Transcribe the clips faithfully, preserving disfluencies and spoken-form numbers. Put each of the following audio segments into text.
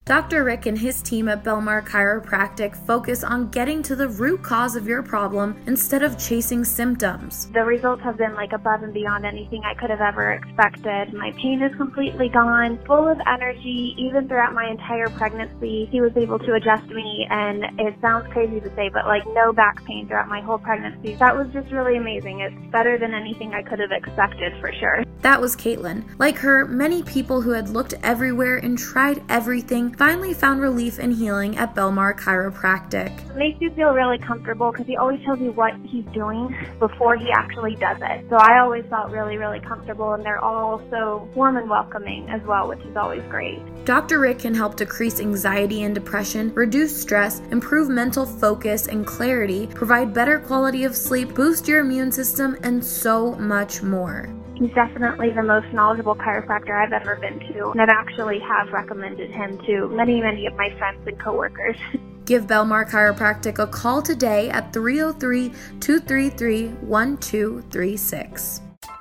Doctor Rick and his team at Belmar Chiropractic focus on getting to the root cause of your problem instead of chasing symptoms. The results have been like above and beyond anything I could have ever expected. My pain is completely gone, full of energy. Even throughout my entire pregnancy, he was able to adjust me, and it sounds crazy to say, but like no back pain throughout my whole pregnancy. That was just really amazing. It's better than anything I could have expected for sure. That was Caitlin. Like her, many people who had looked everywhere and tried everything finally found relief and healing at Belmar Chiropractic. It makes you feel really comfortable because he always tells you what he's doing before he actually does it. So I always felt really, really comfortable, and they're all so warm and welcoming as well, which is always great. Doctor Rick can help decrease anxiety and depression, reduce stress, improve mental focus and clarity, provide better quality of sleep, boost your immune system, and so much more. He's definitely the most knowledgeable chiropractor I've ever been to, and I've actually have recommended him to many, many of my friends and coworkers. Give Belmar Chiropractic a call today at three oh three, two three three, one two three six.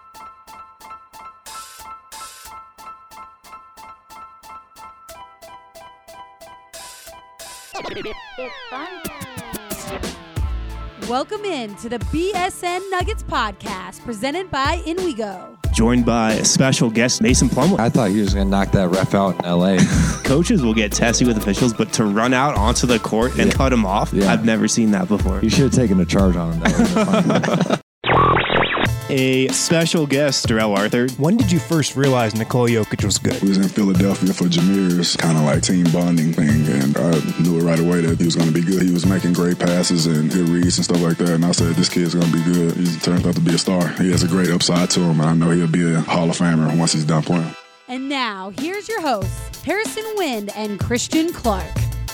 It's fun. Welcome in to the B S N Nuggets podcast presented by InWeGo. Joined by a special guest, Mason Plumlee. I thought you was going to knock that ref out in L A. Coaches will get testy with officials, but to run out onto the court and yeah. cut him off, yeah. I've never seen that before. You should have taken a charge on him. That A special guest, Darrell Arthur. When did you first realize Nikola Jokic was good? We was in Philadelphia for Jameer's kind of like team bonding thing, and I knew it right away that he was going to be good. He was making great passes and good reads and stuff like that, and I said, this kid's going to be good. He turned out to be a star. He has a great upside to him, and I know he'll be a Hall of Famer once he's done playing. And now, here's your hosts, Harrison Wind and Christian Clark.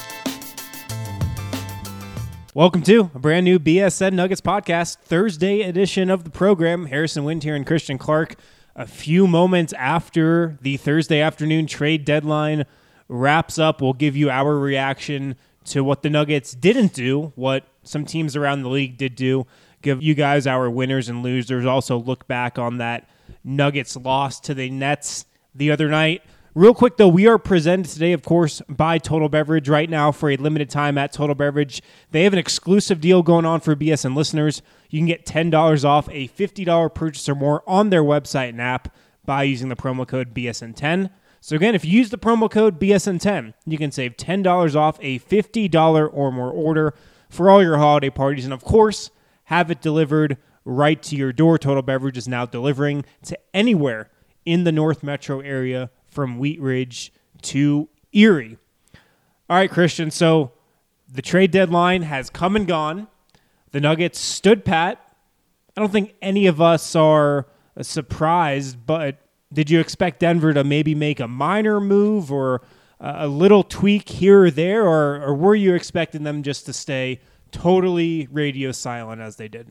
Welcome to a brand new B S N Nuggets podcast, Thursday edition of the program. Harrison Wind here and Christian Clark. A few moments after the Thursday afternoon trade deadline wraps up, we'll give you our reaction to what the Nuggets didn't do, what some teams around the league did do, give you guys our winners and losers, also look back on that Nuggets loss to the Nets the other night. Real quick, though, we are presented today, of course, by Total Beverage. Right now, for a limited time at Total Beverage, they have an exclusive deal going on for B S N listeners. You can get ten dollars off a fifty dollars purchase or more on their website and app by using the promo code B S N ten. So again, if you use the promo code B S N ten, you can save ten dollars off a fifty dollars or more order for all your holiday parties. And of course, have it delivered right to your door. Total Beverage is now delivering to anywhere in the North Metro area, from Wheat Ridge to Erie. All right, Christian, so the trade deadline has come and gone. The Nuggets stood pat. I don't think any of us are surprised, but did you expect Denver to maybe make a minor move or a little tweak here or there, or, or were you expecting them just to stay totally radio silent as they did?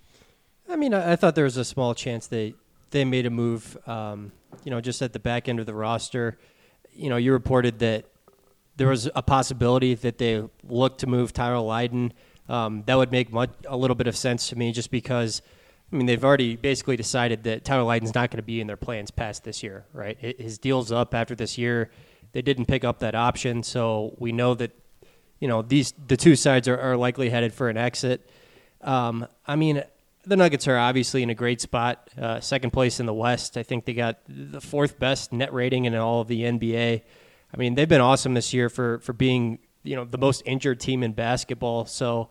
I mean, I, I thought there was a small chance they, they made a move, um, you know, just at the back end of the roster. You know, you reported that there was a possibility that they looked to move Tyler Lydon. Um, that would make much, a little bit of sense to me just because, I mean, they've already basically decided that Tyler Lydon's not going to be in their plans past this year, right? His deal's up after this year. They didn't pick up that option, so we know that, you know, these the two sides are, are likely headed for an exit. Um, I mean, the Nuggets are obviously in a great spot, uh, second place in the West. I think they got the fourth best net rating in all of the N B A. I mean, they've been awesome this year for, for being, you know, the most injured team in basketball. So,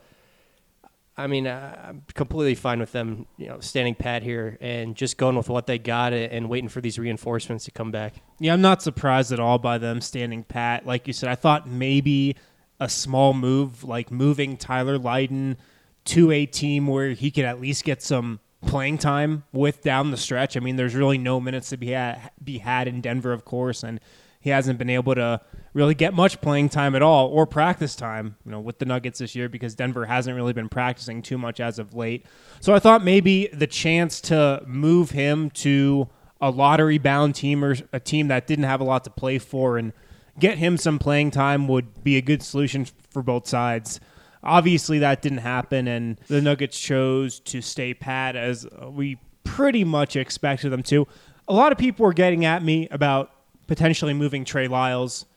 I mean, I'm completely fine with them, you know, standing pat here and just going with what they got and waiting for these reinforcements to come back. Yeah, I'm not surprised at all by them standing pat. Like you said, I thought maybe a small move, like moving Tyler Lydon to a team where he could at least get some playing time with down the stretch. I mean, there's really no minutes to be had, be had in Denver, of course, and he hasn't been able to really get much playing time at all or practice time, you know, with the Nuggets this year because Denver hasn't really been practicing too much as of late. So I thought maybe the chance to move him to a lottery-bound team or a team that didn't have a lot to play for and get him some playing time would be a good solution for both sides. Obviously, that didn't happen, and the Nuggets chose to stay pat as we pretty much expected them to. A lot of people were getting at me about potentially moving Trey Lyles.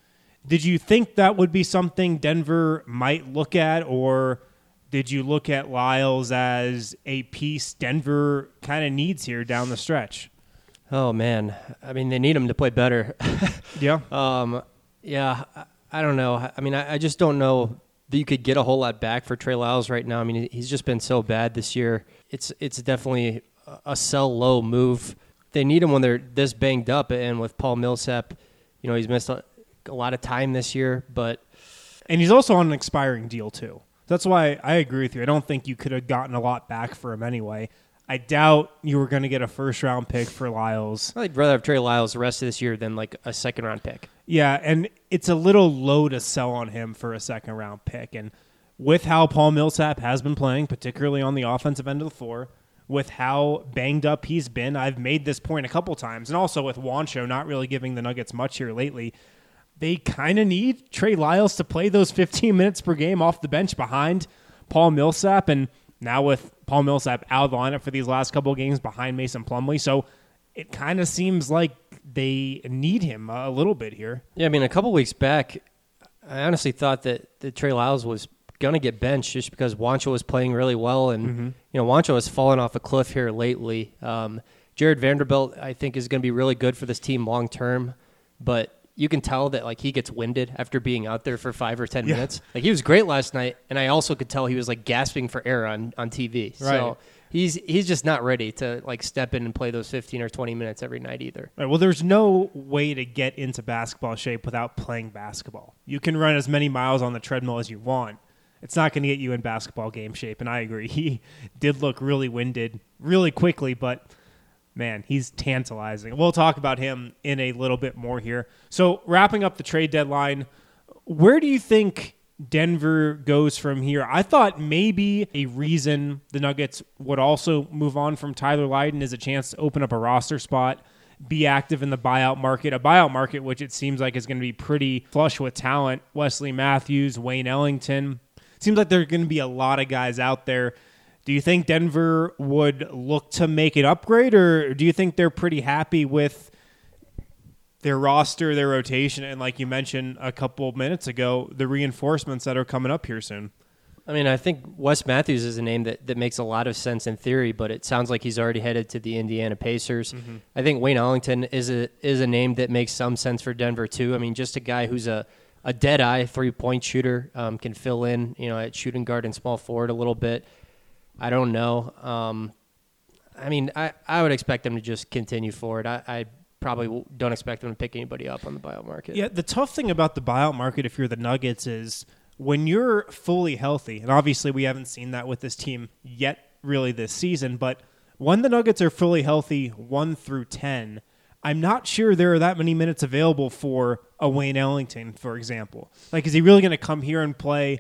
Did you think that would be something Denver might look at, or did you look at Lyles as a piece Denver kind of needs here down the stretch? Oh, man. I mean, they need him to play better. yeah. Um, yeah, I, I don't know. I mean, I, I just don't know that you could get a whole lot back for Trey Lyles right now. I mean, he's just been so bad this year. It's it's definitely a sell low move. They need him when they're this banged up, and with Paul Millsap, you know, he's missed a, a lot of time this year, but and he's also on an expiring deal too. That's why I agree with you. I don't think you could have gotten a lot back for him anyway. I doubt you were going to get a first round pick for Lyles. I'd rather have Trey Lyles the rest of this year than like a second round pick. Yeah, and it's a little low to sell on him for a second round pick. And with how Paul Millsap has been playing, particularly on the offensive end of the floor, with how banged up he's been, I've made this point a couple times, and also with Juancho not really giving the Nuggets much here lately, they kind of need Trey Lyles to play those fifteen minutes per game off the bench behind Paul Millsap, and now with Paul Millsap out of the lineup for these last couple of games behind Mason Plumlee. So it kind of seems like they need him a little bit here. Yeah, I mean, a couple weeks back, I honestly thought that, that Trey Lyles was going to get benched just because Juancho was playing really well. And, mm-hmm. you know, Juancho has fallen off a cliff here lately. Um, Jared Vanderbilt, I think, is going to be really good for this team long term. But you can tell that, like, he gets winded after being out there for five or ten yeah. minutes. Like, he was great last night, and I also could tell he was, like, gasping for air on, on T V. Right. So he's he's just not ready to, like, step in and play those fifteen or twenty minutes every night either. Right, well, there's no way to get into basketball shape without playing basketball. You can run as many miles on the treadmill as you want. It's not going to get you in basketball game shape, and I agree. He did look really winded really quickly, but man, he's tantalizing. We'll talk about him in a little bit more here. So wrapping up the trade deadline, where do you think Denver goes from here? I thought maybe a reason the Nuggets would also move on from Tyler Lydon is a chance to open up a roster spot, be active in the buyout market, a buyout market which it seems like is going to be pretty flush with talent. Wesley Matthews, Wayne Ellington. It seems like there are going to be a lot of guys out there. Do you think Denver would look to make an upgrade, or do you think they're pretty happy with their roster, their rotation, and like you mentioned a couple minutes ago, the reinforcements that are coming up here soon? I mean, I think Wes Matthews is a name that, that makes a lot of sense in theory, but it sounds like he's already headed to the Indiana Pacers. Mm-hmm. I think Wayne Ellington is a is a name that makes some sense for Denver too. I mean, just a guy who's a, a dead-eye three-point shooter, um, can fill in, you know, at shooting guard and small forward a little bit. I don't know. Um, I mean, I, I would expect them to just continue forward. I, I probably don't expect them to pick anybody up on the buyout market. Yeah, the tough thing about the buyout market, if you're the Nuggets, is when you're fully healthy, and obviously we haven't seen that with this team yet really this season, but when the Nuggets are fully healthy, one through ten, I'm not sure there are that many minutes available for a Wayne Ellington, for example. Like, is he really going to come here and play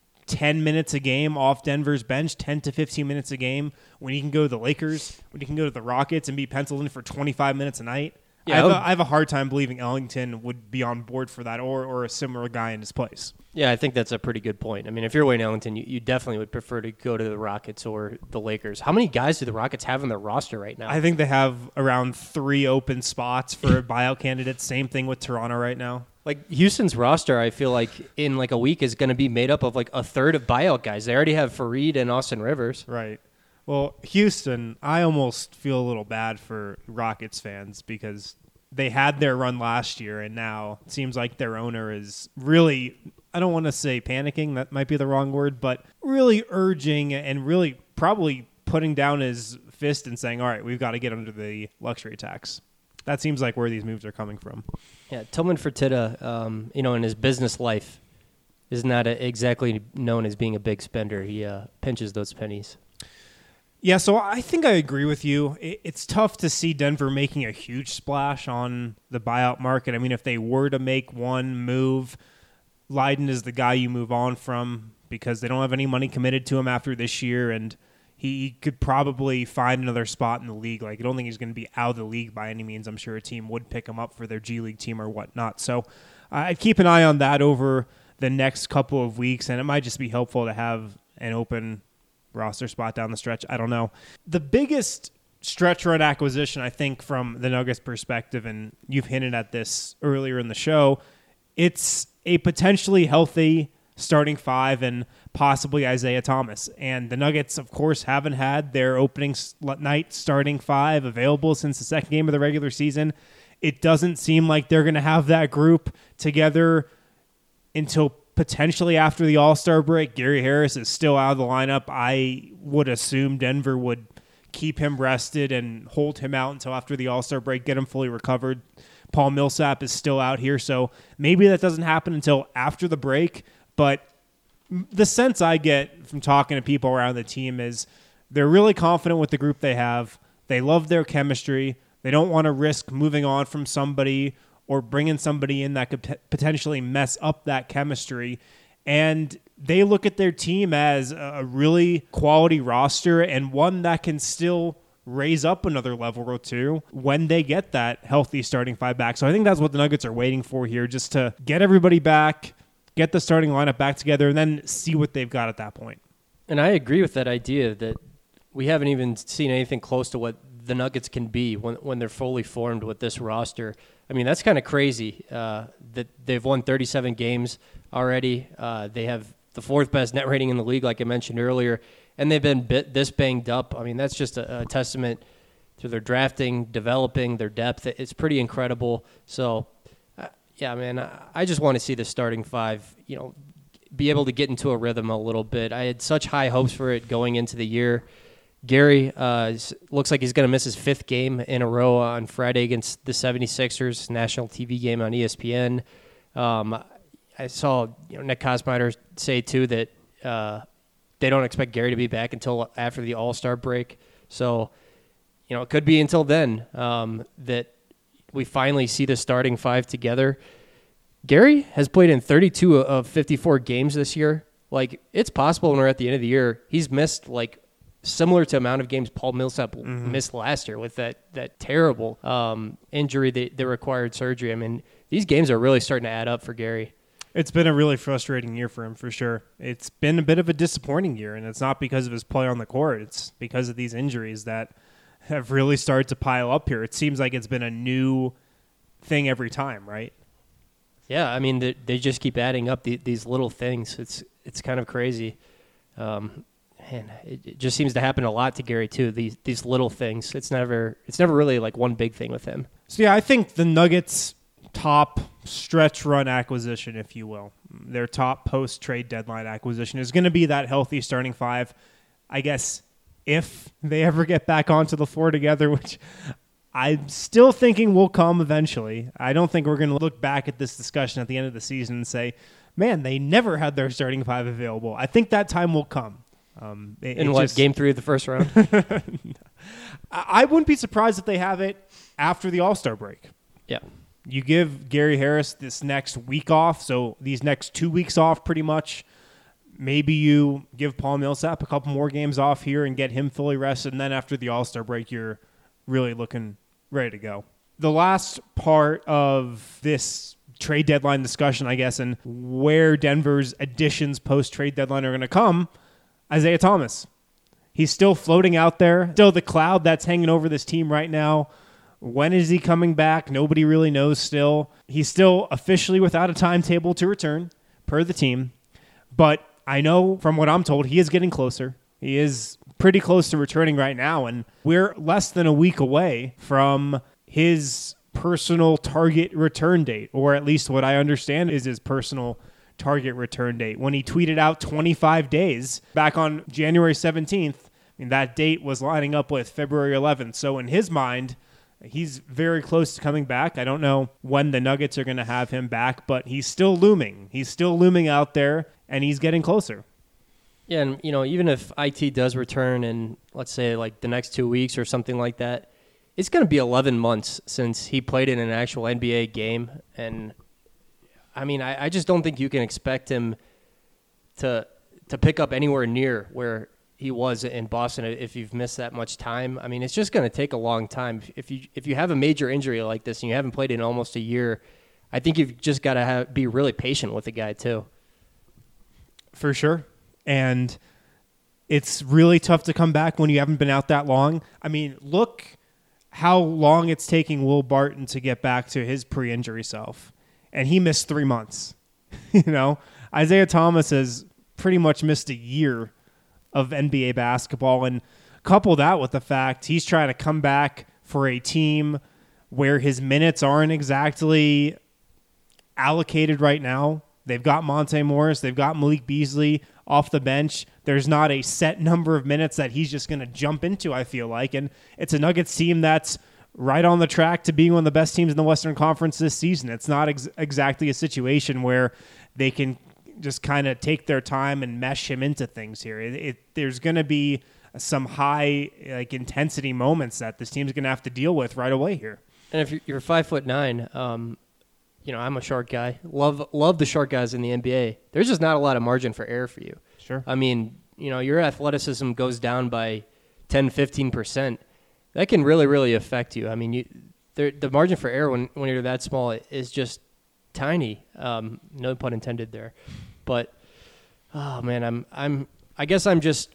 ten minutes a game off Denver's bench, ten to fifteen minutes a game, when he can go to the Lakers, when he can go to the Rockets and be penciled in for twenty-five minutes a night? Yeah, I, have a, I have a hard time believing Ellington would be on board for that, or or a similar guy in his place. Yeah, I think that's a pretty good point. I mean, if you're Wayne Ellington, you, you definitely would prefer to go to the Rockets or the Lakers. How many guys do the Rockets have on their roster right now? I think they have around three open spots for buyout candidates. Same thing with Toronto right now. Like, Houston's roster, I feel like in like a week is going to be made up of like a third of buyout guys. They already have Fareed and Austin Rivers. Right. Well, Houston, I almost feel a little bad for Rockets fans because they had their run last year, and now it seems like their owner is really, I don't want to say panicking, that might be the wrong word, but really urging and really probably putting down his fist and saying, all right, we've got to get under the luxury tax. That seems like where these moves are coming from. Yeah, Tillman Fertitta, um, you know, in his business life, is not a, exactly known as being a big spender. He uh, pinches those pennies. Yeah, so I think I agree with you. It's tough to see Denver making a huge splash on the buyout market. I mean, if they were to make one move, Lydon is the guy you move on from because they don't have any money committed to him after this year, and he could probably find another spot in the league. Like, I don't think he's going to be out of the league by any means. I'm sure a team would pick him up for their G League team or whatnot. So I'd keep an eye on that over the next couple of weeks, and it might just be helpful to have an open roster spot down the stretch. I don't know. The biggest stretch run acquisition, I think, from the Nuggets perspective, and you've hinted at this earlier in the show, it's a potentially healthy starting five and possibly Isaiah Thomas. And the Nuggets, of course, haven't had their opening night starting five available since the second game of the regular season. It doesn't seem like they're going to have that group together until potentially after the All-Star break. Gary Harris is still out of the lineup. I would assume Denver would keep him rested and hold him out until after the All-Star break, get him fully recovered. Paul Millsap is still out here, so maybe that doesn't happen until after the break. But the sense I get from talking to people around the team is they're really confident with the group they have. They love their chemistry. They don't want to risk moving on from somebody or bringing somebody in that could potentially mess up that chemistry. And they look at their team as a really quality roster and one that can still raise up another level or two when they get that healthy starting five back. So I think that's what the Nuggets are waiting for here, just to get everybody back, get the starting lineup back together, and then see what they've got at that point. And I agree with that idea that we haven't even seen anything close to what the Nuggets can be when when they're fully formed with this roster. I mean, that's kind of crazy uh, that they've won thirty-seven games already. Uh, they have the fourth best net rating in the league, like I mentioned earlier, and they've been bit, this banged up. I mean, that's just a, a testament to their drafting, developing, their depth. It's pretty incredible. So, uh, yeah, man, I, I just want to see the starting five, you know, be able to get into a rhythm a little bit. I had such high hopes for it going into the year. Gary uh, looks like he's going to miss his fifth game in a row on Friday against the seventy-sixers, national T V game on E S P N. Um, I saw you know, Nick Kosmider say, too, that uh, they don't expect Gary to be back until after the All-Star break. So, you know, it could be until then um, that we finally see the starting five together. Gary has played in thirty-two of fifty-four games this year. Like, it's possible when we're at the end of the year, he's missed, like, similar to amount of games Paul Millsap mm-hmm. missed last year with that that terrible um, injury that, that required surgery. I mean, these games are really starting to add up for Gary. It's been a really frustrating year for him, for sure. It's been a bit of a disappointing year, and it's not because of his play on the court. It's because of these injuries that have really started to pile up here. It seems like it's been a new thing every time, right? Yeah, I mean, they, they just keep adding up the, these little things. It's it's kind of crazy. Um Man, it, it just seems to happen a lot to Gary too. These these little things. It's never it's never really like one big thing with him. So yeah, I think the Nuggets' top stretch run acquisition, if you will, their top post trade deadline acquisition is going to be that healthy starting five. I guess if they ever get back onto the floor together, which I'm still thinking will come eventually. I don't think we're going to look back at this discussion at the end of the season and say, "Man, they never had their starting five available." I think that time will come. Um, it, In it what, just, game three of the first round? I wouldn't be surprised if they have it after the All-Star break. Yeah. You give Gary Harris this next week off, so these next two weeks off pretty much. Maybe you give Paul Millsap a couple more games off here and get him fully rested, and then after the All-Star break, you're really looking ready to go. The last part of this trade deadline discussion, I guess, and where Denver's additions post-trade deadline are going to come, Isaiah Thomas. He's still floating out there. Still the cloud that's hanging over this team right now. When is he coming back? Nobody really knows still. He's still officially without a timetable to return, per the team. But I know from what I'm told, he is getting closer. He is pretty close to returning right now, and we're less than a week away from his personal target return date, or at least what I understand is his personal target return date. When he tweeted out twenty-five days back on January seventeenth, I mean, that date was lining up with February eleventh. So in his mind, he's very close to coming back. I don't know when the Nuggets are going to have him back, but he's still looming. He's still looming out there, and he's getting closer. Yeah, and you know, even if I T does return in, let's say, like the next two weeks or something like that, it's going to be eleven months since he played in an actual N B A game, and I mean, I, I just don't think you can expect him to to pick up anywhere near where he was in Boston if you've missed that much time. I mean, it's just going to take a long time. If you if you have a major injury like this and you haven't played in almost a year, I think you've just got to have, be really patient with the guy too. For sure. And it's really tough to come back when you haven't been out that long. I mean, look how long it's taking Will Barton to get back to his pre-injury self. And he missed three months. You know, Isaiah Thomas has pretty much missed a year of N B A basketball, and couple that with the fact he's trying to come back for a team where his minutes aren't exactly allocated right now. They've got Monte Morris, they've got Malik Beasley off the bench. There's not a set number of minutes that he's just going to jump into, I feel like, and it's a Nuggets team that's right on the track to being one of the best teams in the Western Conference this season. It's not ex- exactly a situation where they can just kind of take their time and mesh him into things here. It, it, there's going to be some high like intensity moments that this team's going to have to deal with right away here. And if you're, you're five foot nine, um, you know, I'm a short guy. Love love the short guys in the N B A. There's just not a lot of margin for error for you. Sure. I mean, you know, your athleticism goes down by ten, fifteen percent. That can really, really affect you. I mean, you there, the margin for error when, when you're that small is just tiny. Um, no pun intended there. But oh man, I'm I'm I guess I'm just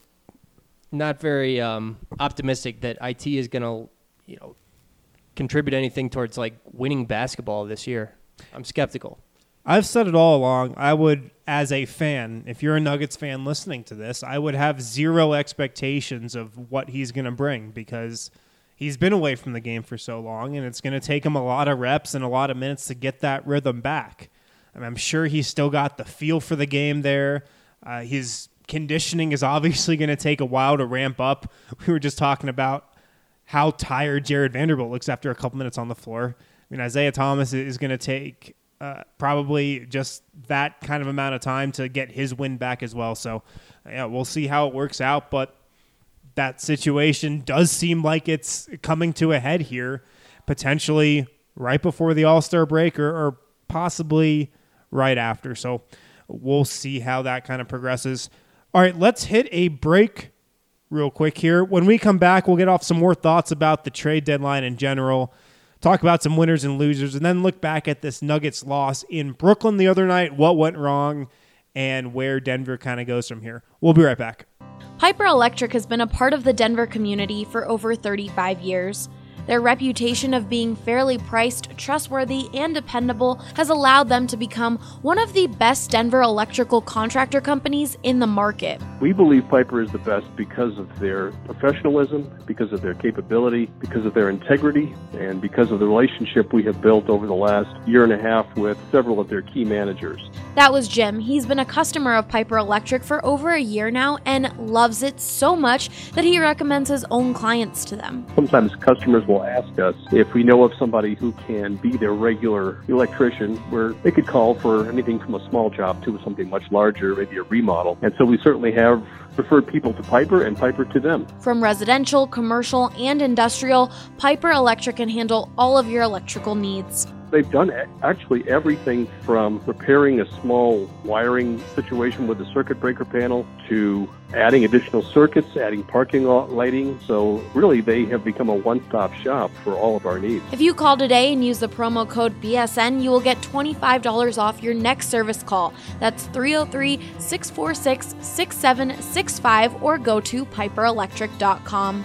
not very um, optimistic that I T is going to, you know, contribute anything towards like winning basketball this year. I'm skeptical. I've said it all along. I would, as a fan, if you're a Nuggets fan listening to this, I would have zero expectations of what he's going to bring because he's been away from the game for so long, and it's going to take him a lot of reps and a lot of minutes to get that rhythm back. I mean, I'm sure he's still got the feel for the game there. Uh, his conditioning is obviously going to take a while to ramp up. We were just talking about how tired Jared Vanderbilt looks after a couple minutes on the floor. I mean, Isaiah Thomas is going to take uh, probably just that kind of amount of time to get his win back as well. So, yeah, we'll see how it works out. But that situation does seem like it's coming to a head here, potentially right before the All-Star break or, or possibly right after. So we'll see how that kind of progresses. All right, let's hit a break real quick here. When we come back, we'll get off some more thoughts about the trade deadline in general, talk about some winners and losers, and then look back at this Nuggets loss in Brooklyn the other night, what went wrong, and where Denver kind of goes from here. We'll be right back. Piper Electric has been a part of the Denver community for over thirty-five years. Their reputation of being fairly priced, trustworthy, and dependable has allowed them to become one of the best Denver electrical contractor companies in the market. We believe Piper is the best because of their professionalism, because of their capability, because of their integrity, and because of the relationship we have built over the last year and a half with several of their key managers. That was Jim. He's been a customer of Piper Electric for over a year now and loves it so much that he recommends his own clients to them. Sometimes customers will ask us if we know of somebody who can be their regular electrician, where they could call for anything from a small job to something much larger, maybe a remodel. And so we certainly have referred people to Piper and Piper to them. From residential, commercial, and industrial, Piper Electric can handle all of your electrical needs. They've done actually everything from repairing a small wiring situation with the circuit breaker panel to adding additional circuits, adding parking lot lighting. So really, they have become a one-stop shop for all of our needs. If you call today and use the promo code B S N, you will get twenty-five dollars off your next service call. That's three oh three, six four six, six seven six five or go to piper electric dot com.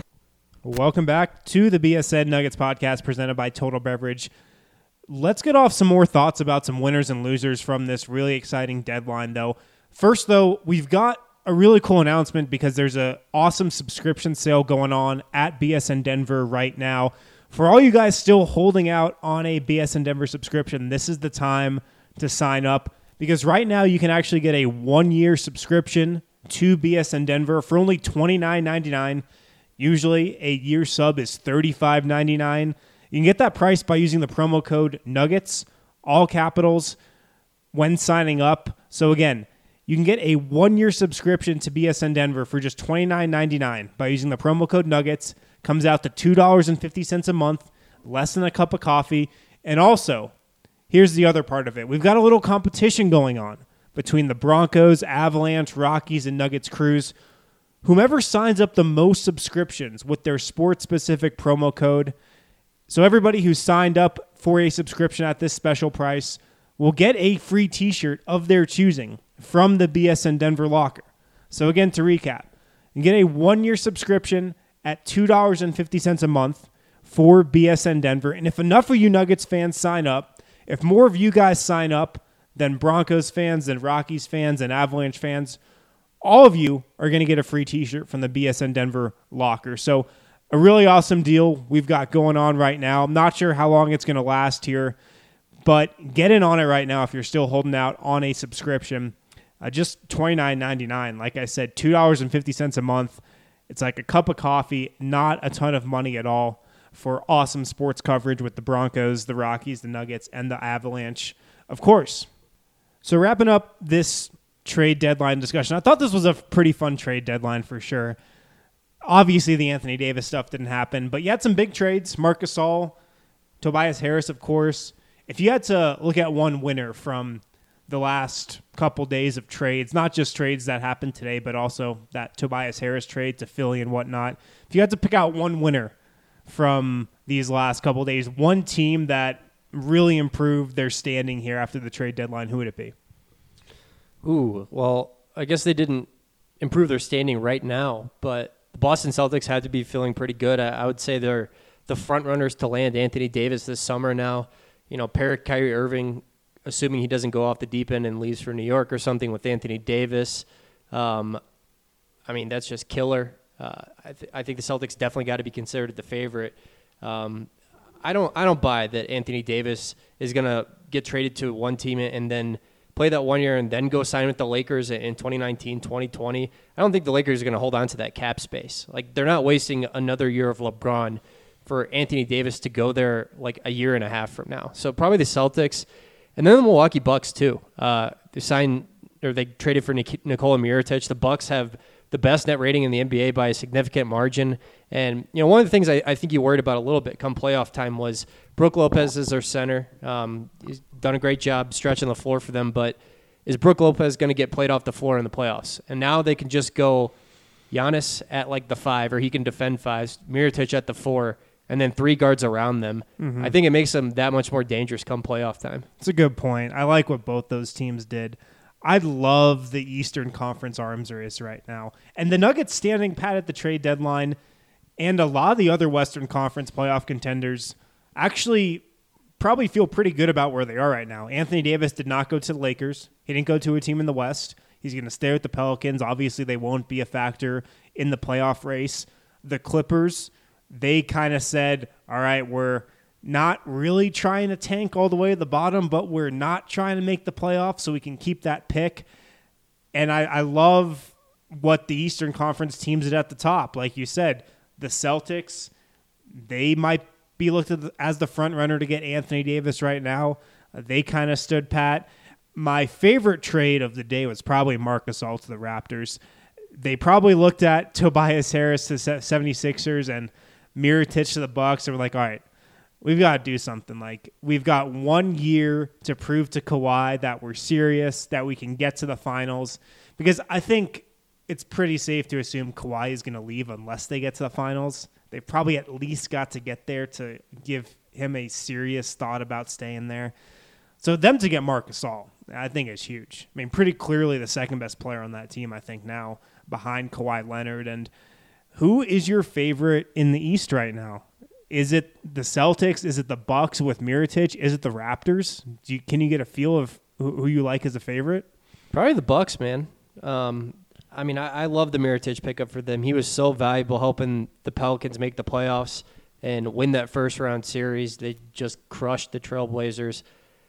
Welcome back to the B S N Nuggets podcast presented by Total Beverage. Let's get off some more thoughts about some winners and losers from this really exciting deadline, though. First, though, we've got a really cool announcement because there's an awesome subscription sale going on at B S N Denver right now. For all you guys still holding out on a B S N Denver subscription, this is the time to sign up because right now you can actually get a one-year subscription to B S N Denver for only twenty-nine ninety-nine. Usually, a year sub is thirty-five ninety-nine. You can get that price by using the promo code Nuggets, all capitals, when signing up. So again, you can get a one-year subscription to B S N Denver for just twenty-nine ninety-nine by using the promo code Nuggets. Comes out to two dollars and fifty cents a month, less than a cup of coffee. And also, here's the other part of it. We've got a little competition going on between the Broncos, Avalanche, Rockies, and Nuggets crews. Whomever signs up the most subscriptions with their sports-specific promo code. So everybody who's signed up for a subscription at this special price will get a free t-shirt of their choosing from the B S N Denver locker. So again, to recap, you get a one-year subscription at two dollars and fifty cents a month for B S N Denver. And if enough of you Nuggets fans sign up, if more of you guys sign up, then Broncos fans, then Rockies fans, and Avalanche fans, all of you are going to get a free t-shirt from the B S N Denver locker. So a really awesome deal we've got going on right now. I'm not sure how long it's going to last here, but get in on it right now if you're still holding out on a subscription. Uh, just twenty-nine ninety-nine. Like I said, two dollars and fifty cents a month. It's like a cup of coffee, not a ton of money at all for awesome sports coverage with the Broncos, the Rockies, the Nuggets, and the Avalanche, of course. So wrapping up this trade deadline discussion, I thought this was a pretty fun trade deadline for sure. Obviously, the Anthony Davis stuff didn't happen, but you had some big trades. Marc Gasol, Tobias Harris, of course. If you had to look at one winner from the last couple days of trades, not just trades that happened today, but also that Tobias Harris trade to Philly and whatnot, if you had to pick out one winner from these last couple days, one team that really improved their standing here after the trade deadline, who would it be? Ooh, well, I guess they didn't improve their standing right now, but the Boston Celtics had to be feeling pretty good. I, I would say they're the front runners to land Anthony Davis this summer now. You know, pair Kyrie Irving, assuming he doesn't go off the deep end and leaves for New York or something with Anthony Davis. Um, I mean, that's just killer. Uh, I, th- I think the Celtics definitely got to be considered the favorite. Um, I don't I don't buy that Anthony Davis is going to get traded to one team and then play that one year and then go sign with the Lakers in twenty nineteen, twenty twenty. I don't think the Lakers are going to hold on to that cap space. Like, they're not wasting another year of LeBron for Anthony Davis to go there like a year and a half from now. So probably the Celtics, and then the Milwaukee Bucks too. Uh, they signed or they traded for Nik- Nikola Mirotic. The Bucks have the best net rating in the N B A by a significant margin. And, you know, one of the things I, I think you worried about a little bit come playoff time was Brook Lopez is their center. Um, he's done a great job stretching the floor for them, but is Brook Lopez going to get played off the floor in the playoffs? And now they can just go Giannis at like the five, or he can defend fives, Mirotic at the four, and then three guards around them. Mm-hmm. I think it makes them that much more dangerous come playoff time. It's a good point. I like what both those teams did. I love the Eastern Conference arms race right now. And the Nuggets standing pat at the trade deadline, and a lot of the other Western Conference playoff contenders actually probably feel pretty good about where they are right now. Anthony Davis did not go to the Lakers. He didn't go to a team in the West. He's going to stay with the Pelicans. Obviously, they won't be a factor in the playoff race. The Clippers, they kind of said, all right, we're not really trying to tank all the way to the bottom, but we're not trying to make the playoffs so we can keep that pick. And I, I love what the Eastern Conference teams did at the top. Like you said, the Celtics, they might be looked at as the front runner to get Anthony Davis right now. Uh, they kind of stood pat. My favorite trade of the day was probably Marc Gasol to the Raptors. They probably looked at Tobias Harris to the seventy-sixers and Mirotic to the Bucks and were like, all right, we've got to do something. Like, we've got one year to prove to Kawhi that we're serious, that we can get to the finals. Because I think it's pretty safe to assume Kawhi is going to leave unless they get to the finals. They've probably at least got to get there to give him a serious thought about staying there. So them to get Marc Gasol, I think is huge. I mean, pretty clearly the second best player on that team, I think, now, behind Kawhi Leonard. And who is your favorite in the East right now? Is it the Celtics? Is it the Bucks with Mirotic? Is it the Raptors? Do you, can you get a feel of who, who you like as a favorite? Probably the Bucks, man. Um, I mean, I, I love the Mirotic pickup for them. He was so valuable helping the Pelicans make the playoffs and win that first round series. They just crushed the Trailblazers.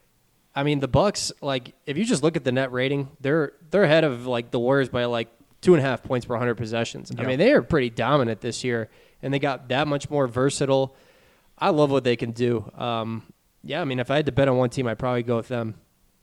I mean, the Bucks, like, if you just look at the net rating, they're they're ahead of like the Warriors by like two and a half points per one hundred possessions. Yep. I mean, they are pretty dominant this year, and they got that much more versatile. I love what they can do. Um, yeah, I mean, if I had to bet on one team, I'd probably go with them.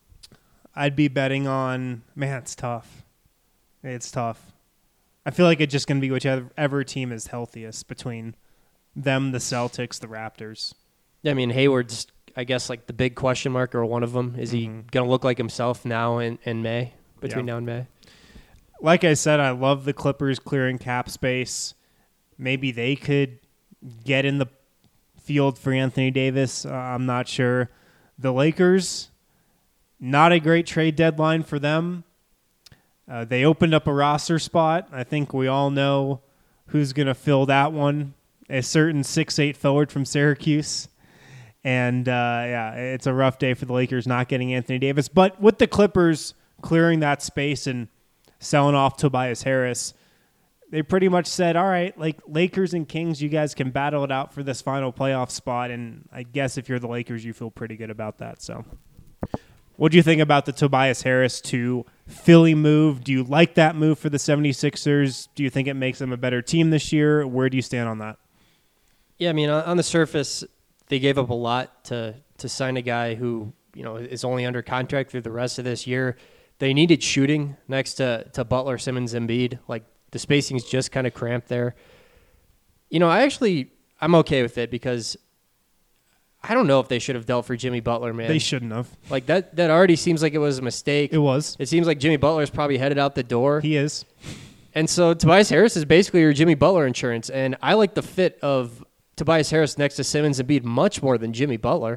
I'd be betting on, man, it's tough. It's tough. I feel like it's just going to be whichever team is healthiest between them, the Celtics, the Raptors. Yeah, I mean, Hayward's, I guess, like the big question mark or one of them. Is he mm-hmm. going to look like himself now in, in May, between yeah. now and May? Like I said, I love the Clippers clearing cap space. Maybe they could get in the field for Anthony Davis. Uh, I'm not sure. The Lakers, not a great trade deadline for them. Uh, they opened up a roster spot. I think we all know who's going to fill that one. A certain six eight forward from Syracuse. And, uh, yeah, it's a rough day for the Lakers not getting Anthony Davis. But with the Clippers clearing that space and selling off Tobias Harris, they pretty much said, all right, like Lakers and Kings, you guys can battle it out for this final playoff spot. And I guess if you're the Lakers, you feel pretty good about that. So what do you think about the Tobias Harris to Philly move? Do you like that move for the seventy-sixers? Do you think it makes them a better team this year? Where do you stand on that? Yeah, I mean, on the surface, they gave up a lot to to sign a guy who, you know, is only under contract through the rest of this year. They needed shooting next to, to Butler, Simmons, Embiid. Like, the spacing's just kind of cramped there. You know, I actually, I'm okay with it because I don't know if they should have dealt for Jimmy Butler, man. They shouldn't have. Like, that, that already seems like it was a mistake. It was. It seems like Jimmy Butler's probably headed out the door. He is. And so Tobias Harris is basically your Jimmy Butler insurance. And I like the fit of Tobias Harris next to Simmons and Embiid much more than Jimmy Butler.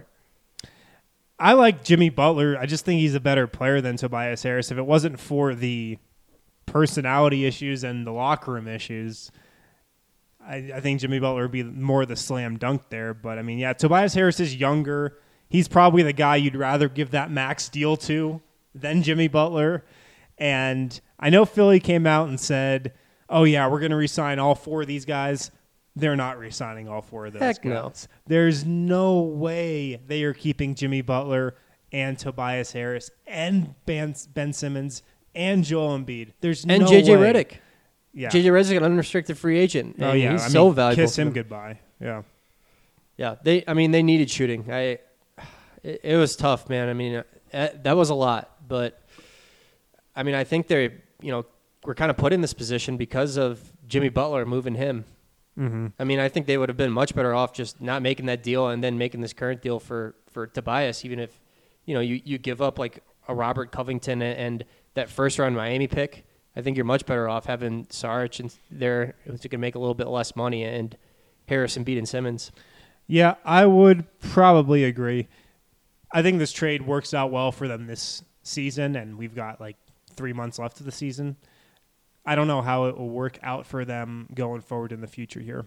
I like Jimmy Butler. I just think he's a better player than Tobias Harris. If it wasn't for the personality issues and the locker room issues, I, I think Jimmy Butler would be more the slam dunk there. But, I mean, yeah, Tobias Harris is younger. He's probably the guy you'd rather give that max deal to than Jimmy Butler. And I know Philly came out and said, oh, yeah, we're going to re-sign all four of these guys. They're not re-signing all four of those Heck guys. No. There's no way they are keeping Jimmy Butler and Tobias Harris and Ben, Ben Simmons and Joel Embiid. There's and no J J way. Redick. Yeah. J J Redick's an unrestricted free agent. Oh and yeah, he's I so mean, valuable. Kiss him them. goodbye. Yeah. Yeah, they. I mean, they needed shooting. I. It, it was tough, man. I mean, uh, that was a lot, but I mean, I think they, you know, were kind of put in this position because of Jimmy Butler moving him. Mm-hmm. I mean, I think they would have been much better off just not making that deal and then making this current deal for, for Tobias, even if, you know, you, you give up like a Robert Covington and, and that first round Miami pick. I think you're much better off having Saric and there who's going to make a little bit less money and Harris, Embiid, and Simmons. Yeah, I would probably agree. I think this trade works out well for them this season, and we've got like three months left of the season. I don't know how it will work out for them going forward in the future here.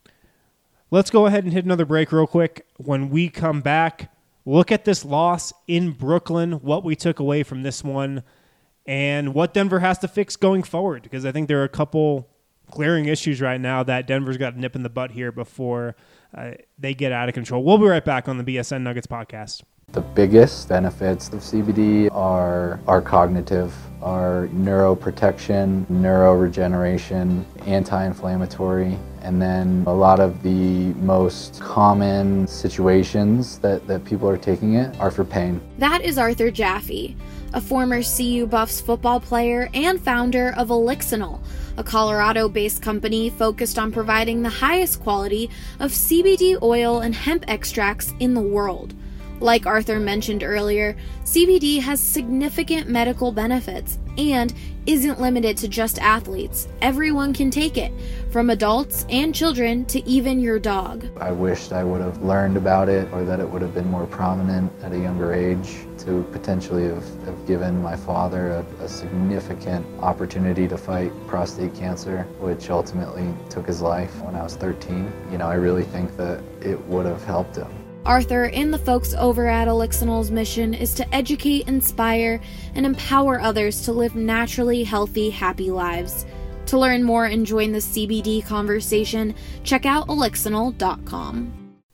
Let's go ahead and hit another break real quick. When we come back, look at this loss in Brooklyn, what we took away from this one, and what Denver has to fix going forward, because I think there are a couple glaring issues right now that Denver's got to nip in the butt here before uh, they get out of control. We'll be right back on the B S N Nuggets podcast. The biggest benefits of C B D are, are cognitive, are neuroprotection, neuroregeneration, anti-inflammatory, and then a lot of the most common situations that, that people are taking it are for pain. That is Arthur Jaffe, a former C U Buffs football player and founder of Elixinol, a Colorado-based company focused on providing the highest quality of C B D oil and hemp extracts in the world. Like Arthur mentioned earlier, C B D has significant medical benefits and isn't limited to just athletes. Everyone can take it, from adults and children to even your dog. I wished I would have learned about it, or that it would have been more prominent at a younger age to potentially have, have given my father a, a significant opportunity to fight prostate cancer, which ultimately took his life when I was thirteen. You know, I really think that it would have helped him. Arthur and the folks over at Elixinol's mission is to educate, inspire, and empower others to live naturally healthy, happy lives. To learn more and join the C B D conversation, check out elixinol dot com.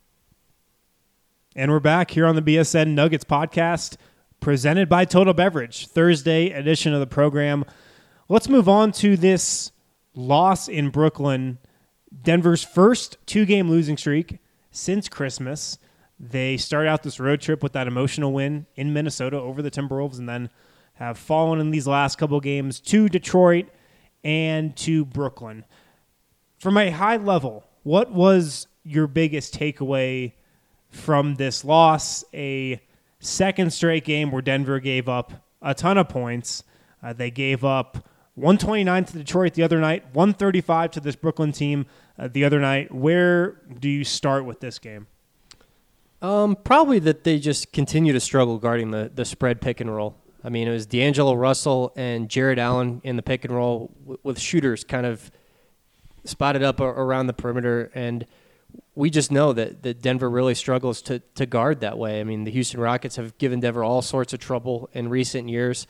And we're back here on the B S N Nuggets podcast, presented by Total Beverage, Thursday edition of the program. Let's move on to this loss in Brooklyn, Denver's first two-game losing streak since Christmas. They start out this road trip with that emotional win in Minnesota over the Timberwolves and then have fallen in these last couple games to Detroit and to Brooklyn. From a high level, what was your biggest takeaway from this loss? A second straight game where Denver gave up a ton of points. Uh, they gave up one twenty-nine to Detroit the other night, one thirty-five to this Brooklyn team uh, the other night. Where do you start with this game? Um, probably that they just continue to struggle guarding the, the spread pick and roll. I mean, it was D'Angelo Russell and Jared Allen in the pick and roll w- with shooters kind of spotted up around the perimeter. And we just know that, that Denver really struggles to, to guard that way. I mean, the Houston Rockets have given Denver all sorts of trouble in recent years.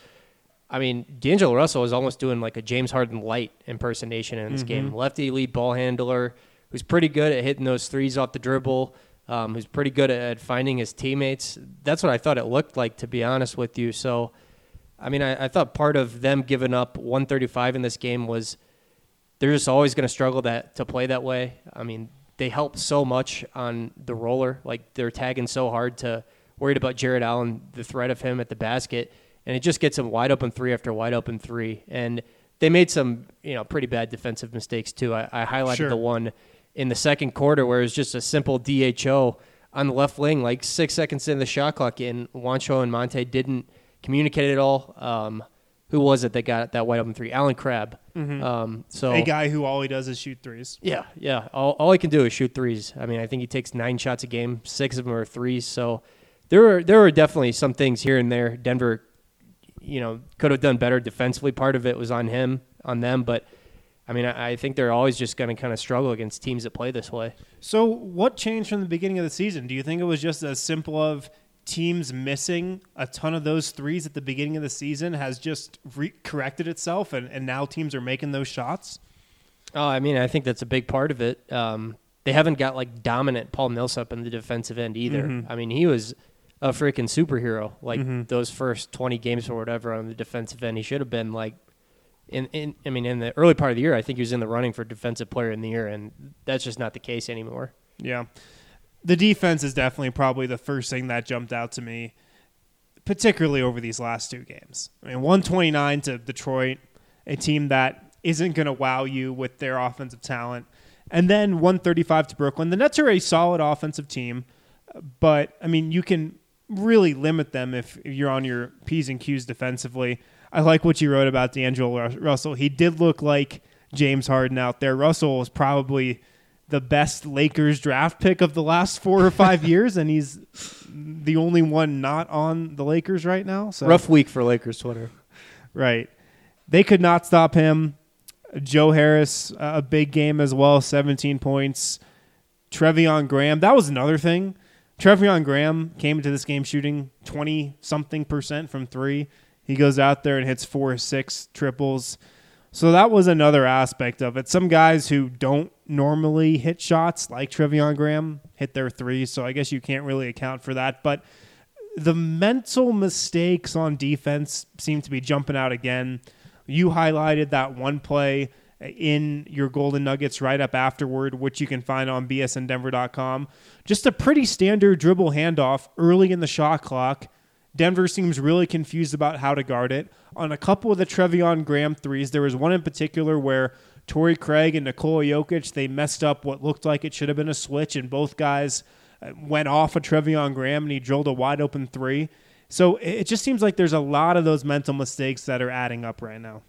I mean, D'Angelo Russell is almost doing like a James Harden light impersonation in this mm-hmm. game. Lefty elite ball handler who's pretty good at hitting those threes off the dribble, um, who's pretty good at, at finding his teammates. That's what I thought it looked like, to be honest with you. So, I mean, I, I thought part of them giving up one thirty-five in this game was they're just always going to struggle that to play that way. I mean, they help so much on the roller. Like, they're tagging so hard to worried about Jared Allen, the threat of him at the basket, and it just gets them wide open three after wide open three. And they made some, you know, pretty bad defensive mistakes too. I, I highlighted sure. the one in the second quarter where it was just a simple D H O on the left wing, like six seconds in the shot clock, and Juancho and Monte didn't communicate at all. Um, who was it that got that wide open three? Alan Crabb. Mm-hmm. Um, so a guy who all he does is shoot threes. Yeah, yeah. All, all he can do is shoot threes. I mean, I think he takes nine shots a game, six of them are threes. So there were there were definitely some things here and there. Denver, you know, could have done better defensively. Part of it was on him, on them, but I mean, I, I think they're always just going to kind of struggle against teams that play this way. So what changed from the beginning of the season? Do you think it was just as simple of teams missing a ton of those threes at the beginning of the season has just re- corrected itself, and, and now teams are making those shots? Oh, I mean, I think that's a big part of it. Um, they haven't got like dominant Paul Millsap in the defensive end either. Mm-hmm. I mean, he was a freaking superhero. Like mm-hmm. those first twenty games or whatever on the defensive end, he should have been like in, in. I mean, in the early part of the year, I think he was in the running for defensive player in the year, and that's just not the case anymore. Yeah. The defense is definitely probably the first thing that jumped out to me, particularly over these last two games. I mean, one twenty-nine to Detroit, a team that isn't going to wow you with their offensive talent, and then one thirty-five to Brooklyn. The Nets are a solid offensive team, but, I mean, you can really limit them if you're on your P's and Q's defensively. I like what you wrote about D'Angelo Russell. He did look like James Harden out there. Russell was probably the best Lakers draft pick of the last four or five years, and he's the only one not on the Lakers right now. So rough week for Lakers Twitter. Right. They could not stop him. Joe Harris, uh, a big game as well, seventeen points. Treveon Graham, that was another thing. Treveon Graham came into this game shooting twenty-something percent from three. He goes out there and hits four or six triples. So that was another aspect of it. Some guys who don't normally hit shots, like Treveon Graham, hit their threes, so I guess you can't really account for that. But the mental mistakes on defense seem to be jumping out again. You highlighted that one play in your Golden Nuggets right up afterward, which you can find on B S N Denver dot com. Just a pretty standard dribble handoff early in the shot clock. Denver seems really confused about how to guard it. On a couple of the Treveon Graham threes, there was one in particular where Torrey Craig and Nikola Jokic, they messed up what looked like it should have been a switch, and both guys went off of Treveon Graham, and he drilled a wide-open three. So it just seems like there's a lot of those mental mistakes that are adding up right now.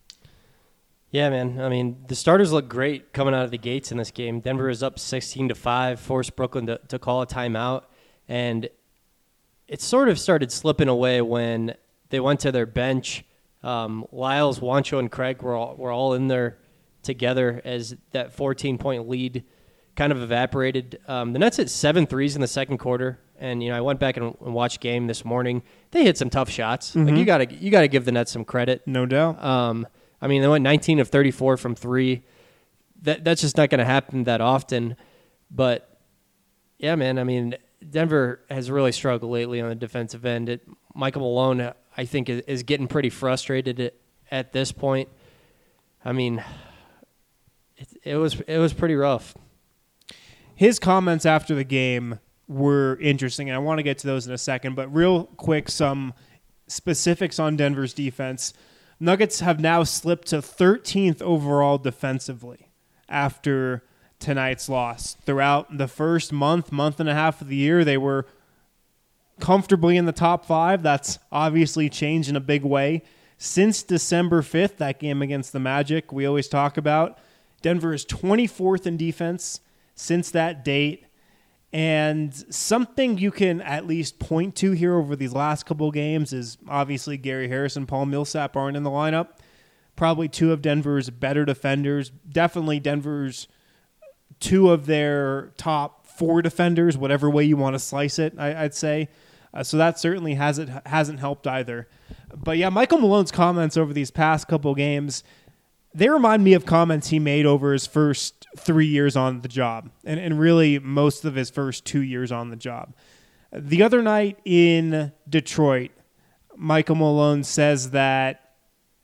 Yeah, man. I mean, the starters look great coming out of the gates in this game. Denver is up sixteen to five, forced Brooklyn to, to call a timeout, and it sort of started slipping away when they went to their bench. Um, Lyles, Juancho, and Craig were all, were all in there together as that fourteen-point lead kind of evaporated. Um, the Nets hit seven threes in the second quarter, and you know I went back and, and watched game this morning. They hit some tough shots. Mm-hmm. Like you gotta you gotta give the Nets some credit, no doubt. Um, I mean, they went nineteen of thirty-four from three. That that's just not going to happen that often. But yeah, man. I mean, Denver has really struggled lately on the defensive end. It, Michael Malone, I think, is, is getting pretty frustrated at, at this point. I mean, it, it was it was pretty rough. His comments after the game were interesting, and I want to get to those in a second. But real quick, some specifics on Denver's defense. Nuggets have now slipped to thirteenth overall defensively after tonight's loss. Throughout the first month, month and a half of the year, they were comfortably in the top five. That's obviously changed in a big way. Since December fifth, that game against the Magic we always talk about, Denver is twenty-fourth in defense since that date. And something you can at least point to here over these last couple of games is obviously Gary Harris and Paul Millsap aren't in the lineup. Probably two of Denver's better defenders. Definitely Denver's two of their top four defenders, whatever way you want to slice it, I, I'd say. Uh, so that certainly hasn't hasn't helped either. But yeah, Michael Malone's comments over these past couple games, they remind me of comments he made over his first three years on the job, and, and really most of his first two years on the job. The other night in Detroit, Michael Malone says that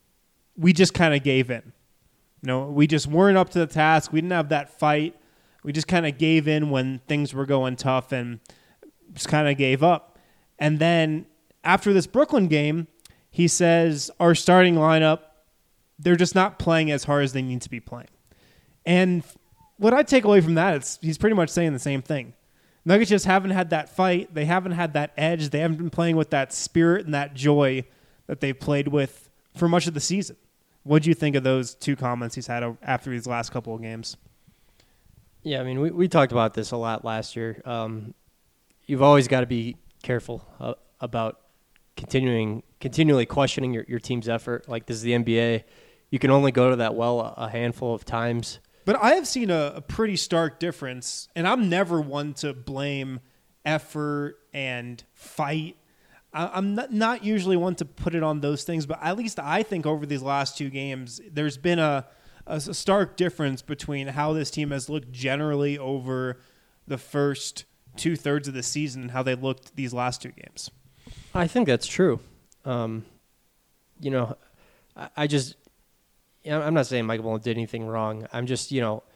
we just kind of gave in. You know, we just weren't up to the task. We didn't have that fight. We just kind of gave in when things were going tough and just kind of gave up. And then after this Brooklyn game, he says our starting lineup, they're just not playing as hard as they need to be playing. And what I take away from that is he's pretty much saying the same thing. Nuggets just haven't had that fight. They haven't had that edge. They haven't been playing with that spirit and that joy that they've played with for much of the season. What do you think of those two comments he's had after these last couple of games? Yeah, I mean, we, we talked about this a lot last year. Um, you've always got to be careful uh, about continuing continually questioning your, your team's effort. Like, this is the N B A. You can only go to that well a, a handful of times. But I have seen a, a pretty stark difference, and I'm never one to blame effort and fight. I, I'm not, not usually one to put it on those things, but at least I think over these last two games, there's been a, a stark difference between how this team has looked generally over the first two-thirds of the season and how they looked these last two games. I think that's true. Um, you know, I, I just... I'm not saying Michael Malone did anything wrong. I'm just, you know,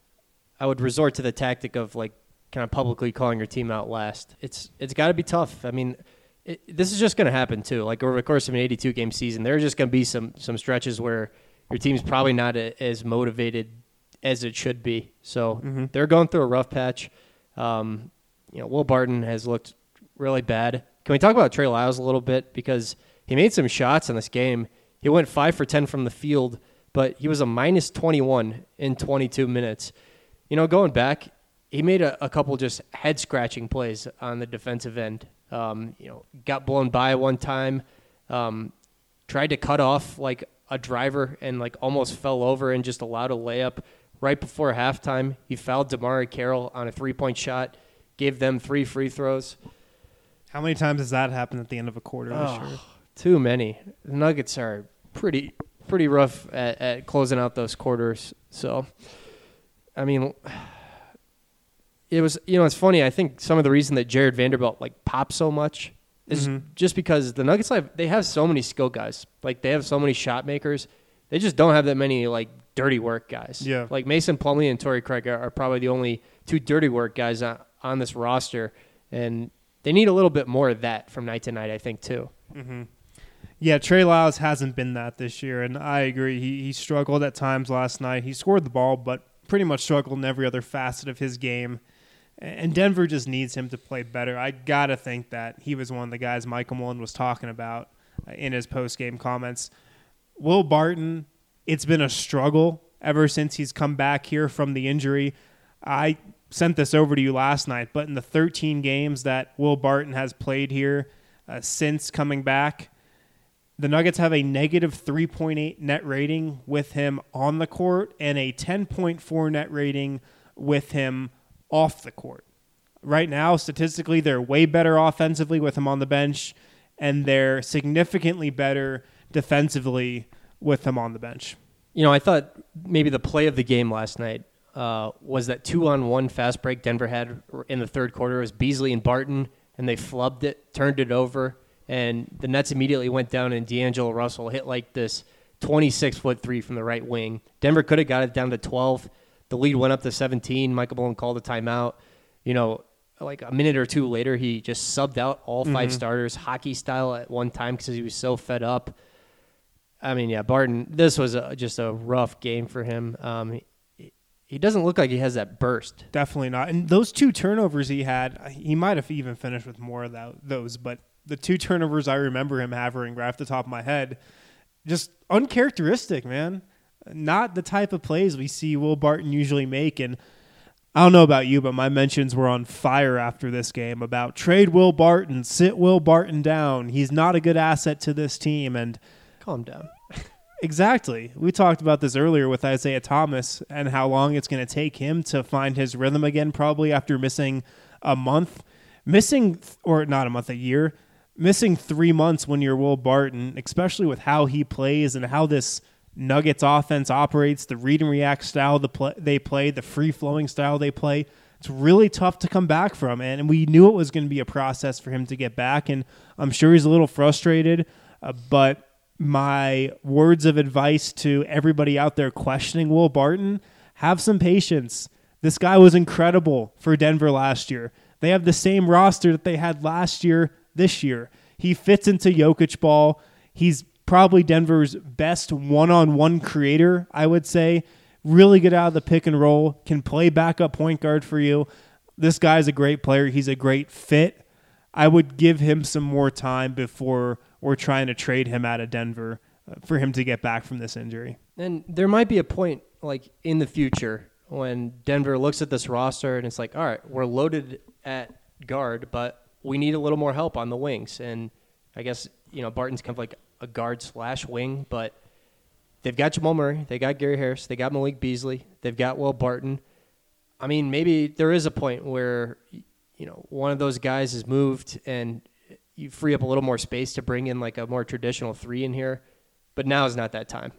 I would resort to the tactic of, like, kind of publicly calling your team out last. It's It's got to be tough. I mean, it, this is just going to happen, too. Like, over the course of an eighty-two game season, there are just going to be some some stretches where your team's probably not a, as motivated as it should be. So mm-hmm. they're going through a rough patch. Um, you know, Will Barton has looked really bad. Can we talk about Trey Lyles a little bit? Because he made some shots in this game. He went five for ten from the field, but he was a minus twenty-one in twenty-two minutes. You know, going back, he made a, a couple just head-scratching plays on the defensive end. Um, you know, got blown by one time, um, tried to cut off like a driver and like almost fell over and just allowed a layup right before halftime. He fouled Damari Carroll on a three-point shot, gave them three free throws. How many times has that happened at the end of a quarter oh, this year? Too many. The Nuggets are pretty... pretty rough at, at closing out those quarters. So, I mean, it was, you know, it's funny. I think some of the reason that Jared Vanderbilt like popped so much is mm-hmm. just because the Nuggets have, they have so many skill guys. Like, they have so many shot makers. They just don't have that many like dirty work guys. Yeah. Like Mason Plumlee and Torrey Craig are, are probably the only two dirty work guys on, on this roster. And they need a little bit more of that from night to night, I think, too. Mm-hmm. Yeah, Trey Lyles hasn't been that this year, and I agree. He he struggled at times last night. He scored the ball, but pretty much struggled in every other facet of his game. And Denver just needs him to play better. I got to think that he was one of the guys Michael Malone was talking about in his post-game comments. Will Barton, it's been a struggle ever since he's come back here from the injury. I sent this over to you last night, but in the thirteen games that Will Barton has played here uh, since coming back, the Nuggets have a negative three point eight net rating with him on the court and a ten point four net rating with him off the court. Right now, statistically, they're way better offensively with him on the bench, and they're significantly better defensively with him on the bench. You know, I thought maybe the play of the game last night uh, was that two-on-one fast break Denver had in the third quarter. It was Beasley and Barton, and they flubbed it, turned it over, and the Nets immediately went down, and D'Angelo Russell hit like this twenty-six foot three from the right wing. Denver could have got it down to twelve. The lead went up to seventeen. Michael Malone called a timeout. You know, like a minute or two later, he just subbed out all five mm-hmm. starters, hockey style at one time because he was so fed up. I mean, yeah, Barton, this was a, just a rough game for him. Um, he, he doesn't look like he has that burst. Definitely not. And those two turnovers he had, he might have even finished with more of that, those, but the two turnovers I remember him having right off the top of my head, just uncharacteristic, man. Not the type of plays we see Will Barton usually make. And I don't know about you, but my mentions were on fire after this game about trade Will Barton, sit Will Barton down. He's not a good asset to this team. And calm down. Exactly. We talked about this earlier with Isaiah Thomas and how long it's going to take him to find his rhythm again, probably after missing a month. Missing, or not a month, a year. Missing three months when you're Will Barton, especially with how he plays and how this Nuggets offense operates, the read and react style the play, they play, the free-flowing style they play. It's really tough to come back from, and we knew it was going to be a process for him to get back, and I'm sure he's a little frustrated, uh, but my words of advice to everybody out there questioning Will Barton, have some patience. This guy was incredible for Denver last year. They have the same roster that they had last year, this year. He fits into Jokic ball. He's probably Denver's best one-on-one creator, I would say. Really good out of the pick and roll, can play backup point guard for you. This guy's a great player. He's a great fit. I would give him some more time before we're trying to trade him out of Denver uh, for him to get back from this injury. And there might be a point like in the future when Denver looks at this roster and it's like, all right, we're loaded at guard, but we need a little more help on the wings. And I guess, you know, Barton's kind of like a guard slash wing, but they've got Jamal Murray, they got Gary Harris, they got Malik Beasley, they've got Will Barton. I mean, maybe there is a point where, you know, one of those guys is moved and you free up a little more space to bring in like a more traditional three in here, but now is not that time.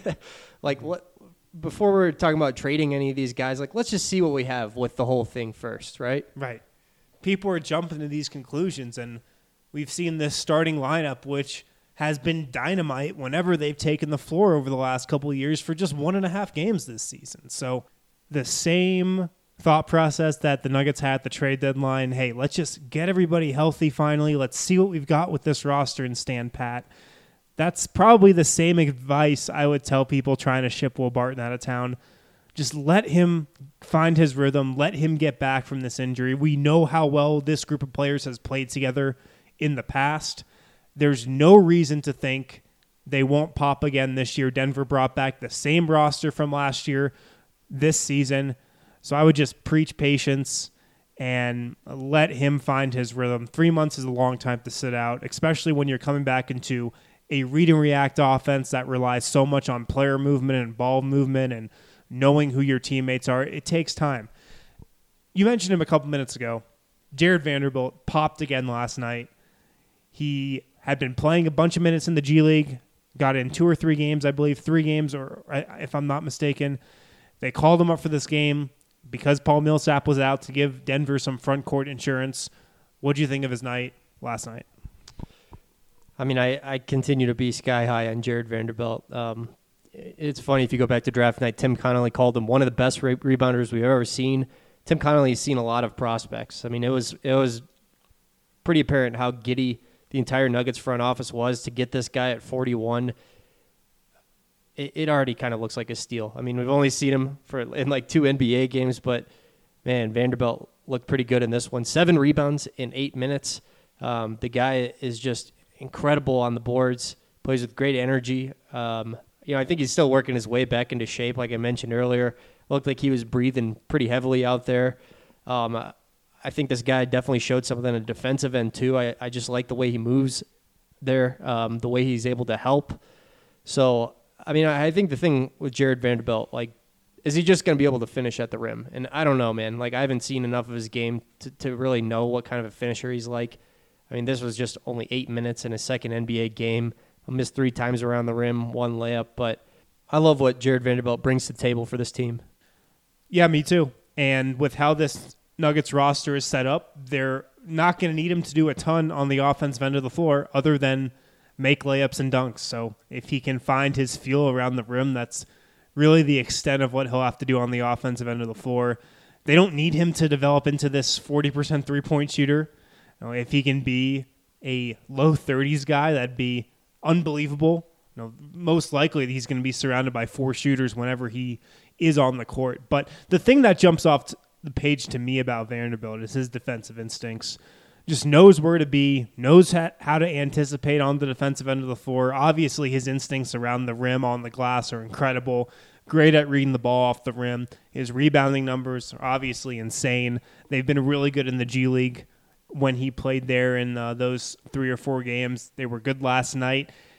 Like what, before we're talking about trading any of these guys, like let's just see what we have with the whole thing first, right? Right. People are jumping to these conclusions, and we've seen this starting lineup, which has been dynamite whenever they've taken the floor over the last couple of years for just one and a half games this season. So the same thought process that the Nuggets had at the trade deadline, hey, let's just get everybody healthy finally. Let's see what we've got with this roster and stand pat. That's probably the same advice I would tell people trying to ship Will Barton out of town. Just let him find his rhythm. Let him get back from this injury. We know how well this group of players has played together in the past. There's no reason to think they won't pop again this year. Denver brought back the same roster from last year this season. So I would just preach patience and let him find his rhythm. Three months is a long time to sit out, especially when you're coming back into a read and react offense that relies so much on player movement and ball movement and knowing who your teammates are. It takes time. You mentioned him a couple minutes ago. Jared Vanderbilt popped again last night. He had been playing a bunch of minutes in the G League, got in two or three games, I believe, three games, or if I'm not mistaken. They called him up for this game because Paul Millsap was out to give Denver some front court insurance. What do you think of his night last night? I mean, I, I continue to be sky high on Jared Vanderbilt. Um, it's funny, if you go back to draft night, Tim Connolly called him one of the best re- rebounders we've ever seen. Tim Connolly has seen a lot of prospects. I mean, it was it was pretty apparent how giddy the entire Nuggets front office was to get this guy at forty-one. It, it already kind of looks like a steal. I mean, we've only seen him for in like two N B A games, but man, Vanderbilt looked pretty good in this one. Seven rebounds in eight minutes. Um, the guy is just incredible on the boards, plays with great energy. Um, you know, I think he's still working his way back into shape, like I mentioned earlier. Looked like he was breathing pretty heavily out there. Um, I think this guy definitely showed something on the defensive end, too. I, I just like the way he moves there, um, the way he's able to help. So, I mean, I, I think the thing with Jared Vanderbilt, like, is he just going to be able to finish at the rim? And I don't know, man. Like, I haven't seen enough of his game to, to really know what kind of a finisher he's like. I mean, this was just only eight minutes in his second N B A game. I missed three times around the rim, one layup. But I love what Jared Vanderbilt brings to the table for this team. Yeah, me too. And with how this Nuggets roster is set up, they're not going to need him to do a ton on the offensive end of the floor other than make layups and dunks. So if he can find his feel around the rim, that's really the extent of what he'll have to do on the offensive end of the floor. They don't need him to develop into this forty percent three-point shooter. You know, if he can be a low thirties guy, that'd be unbelievable. You know, most likely he's going to be surrounded by four shooters whenever he is on the court. But the thing that jumps off the page to me about Vanderbilt is his defensive instincts. Just knows where to be, knows how to anticipate on the defensive end of the floor. Obviously, his instincts around the rim, on the glass are incredible. Great at reading the ball off the rim. His rebounding numbers are obviously insane. They've been really good in the G League when he played there in uh, those three or four games. They were good last night.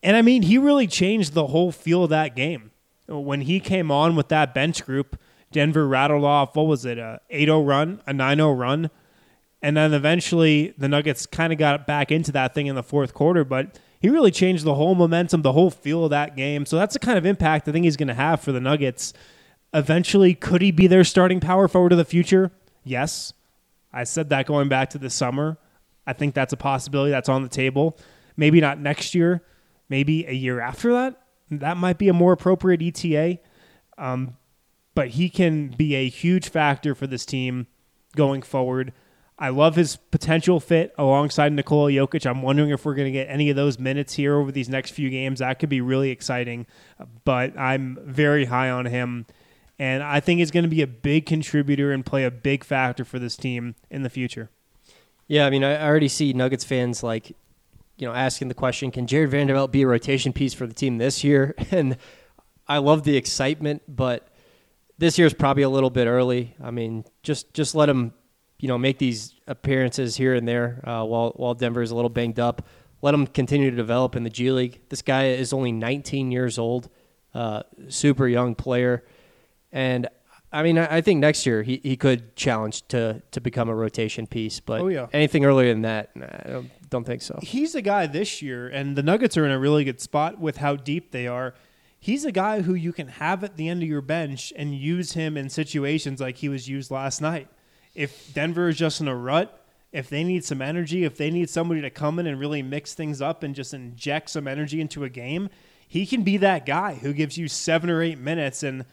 And I mean, he really changed the whole feel of that game. When he came on with that bench group, Denver rattled off, what was it, a eight oh run, a nine oh run. And then eventually the Nuggets kind of got back into that thing in the fourth quarter, but he really changed the whole momentum, the whole feel of that game. So that's the kind of impact I think he's going to have for the Nuggets. Eventually, could he be their starting power forward of the future? Yes. I said that going back to the summer. I think that's a possibility that's on the table. Maybe not next year. Maybe a year after that. That might be a more appropriate E T A. Um, but he can be a huge factor for this team going forward. I love his potential fit alongside Nikola Jokic. I'm wondering if we're going to get any of those minutes here over these next few games. That could be really exciting. But I'm very high on him. And I think he's going to be a big contributor and play a big factor for this team in the future. Yeah, I mean, I already see Nuggets fans like, you know, asking the question, can Jared Vanderbilt be a rotation piece for the team this year? And I love the excitement, but this year's probably a little bit early. I mean, just just let him, you know, make these appearances here and there uh, while while Denver is a little banged up. Let him continue to develop in the G League. This guy is only nineteen years old, uh, super young player. And, I mean, I think next year he, he could challenge to to become a rotation piece. But oh, yeah. anything earlier than that, I don't, don't think so. He's a guy this year, and the Nuggets are in a really good spot with how deep they are. He's a guy who you can have at the end of your bench and use him in situations like he was used last night. If Denver is just in a rut, if they need some energy, if they need somebody to come in and really mix things up and just inject some energy into a game, he can be that guy who gives you seven or eight minutes and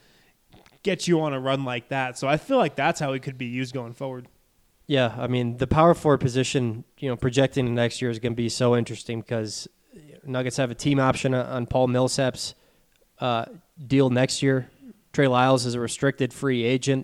get you on a run like that. So I feel like that's how he could be used going forward. Yeah, I mean, the power forward position, you know, projecting the next year is going to be so interesting because Nuggets have a team option on Paul Millsap's uh, deal next year. Trey Lyles is a restricted free agent.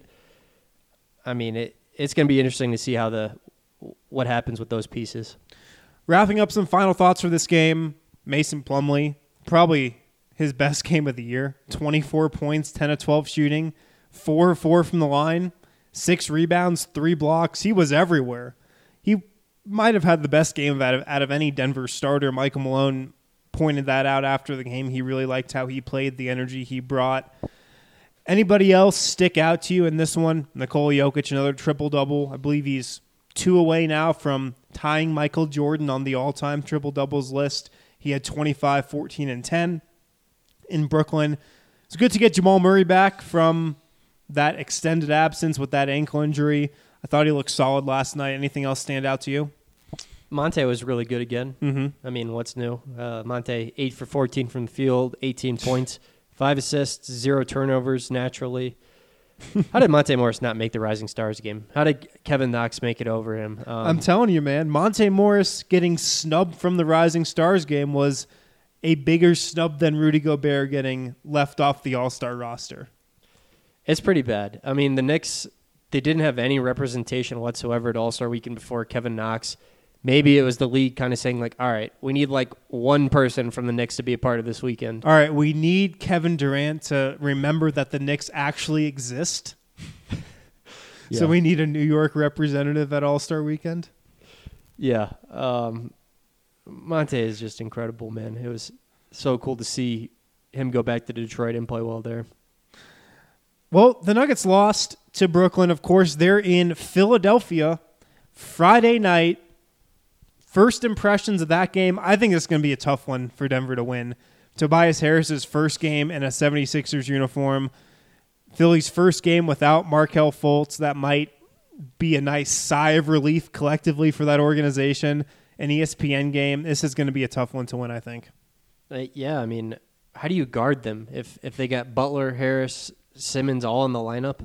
I mean, it, it's going to be interesting to see how the what happens with those pieces. Wrapping up some final thoughts for this game, Mason Plumlee, probably his best game of the year. twenty-four points, ten of twelve shooting, four of four from the line, six rebounds, three blocks. He was everywhere. He might have had the best game out of, out of any Denver starter. Michael Malone pointed that out after the game. He really liked how he played, the energy he brought. Anybody else stick out to you in this one? Nikola Jokic, another triple-double. I believe he's two away now from tying Michael Jordan on the all-time triple-doubles list. He had twenty-five, fourteen, and ten in Brooklyn. It's good to get Jamal Murray back from that extended absence with that ankle injury. I thought he looked solid last night. Anything else stand out to you? Monte was really good again. Mm-hmm. I mean, what's new? Uh, Monte, eight for fourteen from the field, eighteen points, five assists, zero turnovers naturally. How did Monte Morris not make the Rising Stars game? How did Kevin Knox make it over him? Um, I'm telling you, man, Monte Morris getting snubbed from the Rising Stars game was a bigger snub than Rudy Gobert getting left off the All-Star roster. It's pretty bad. I mean, the Knicks, they didn't have any representation whatsoever at All-Star Weekend before Kevin Knox. Maybe it was the league kind of saying, like, all right, we need, like, one person from the Knicks to be a part of this weekend. All right, we need Kevin Durant to remember that the Knicks actually exist. Yeah. So we need a New York representative at All-Star Weekend? Yeah. Um, Monte is just incredible, man. It was so cool to see him go back to Detroit and play well there. Well, the Nuggets lost to Brooklyn. Of course, they're in Philadelphia Friday night. First impressions of that game, I think it's going to be a tough one for Denver to win. Tobias Harris's first game in a seventy-sixers uniform. Philly's first game without Markelle Fultz. That might be a nice sigh of relief collectively for that organization. An E S P N game. This is going to be a tough one to win, I think. Uh, yeah, I mean, how do you guard them if, if they got Butler, Harris, Simmons all in the lineup?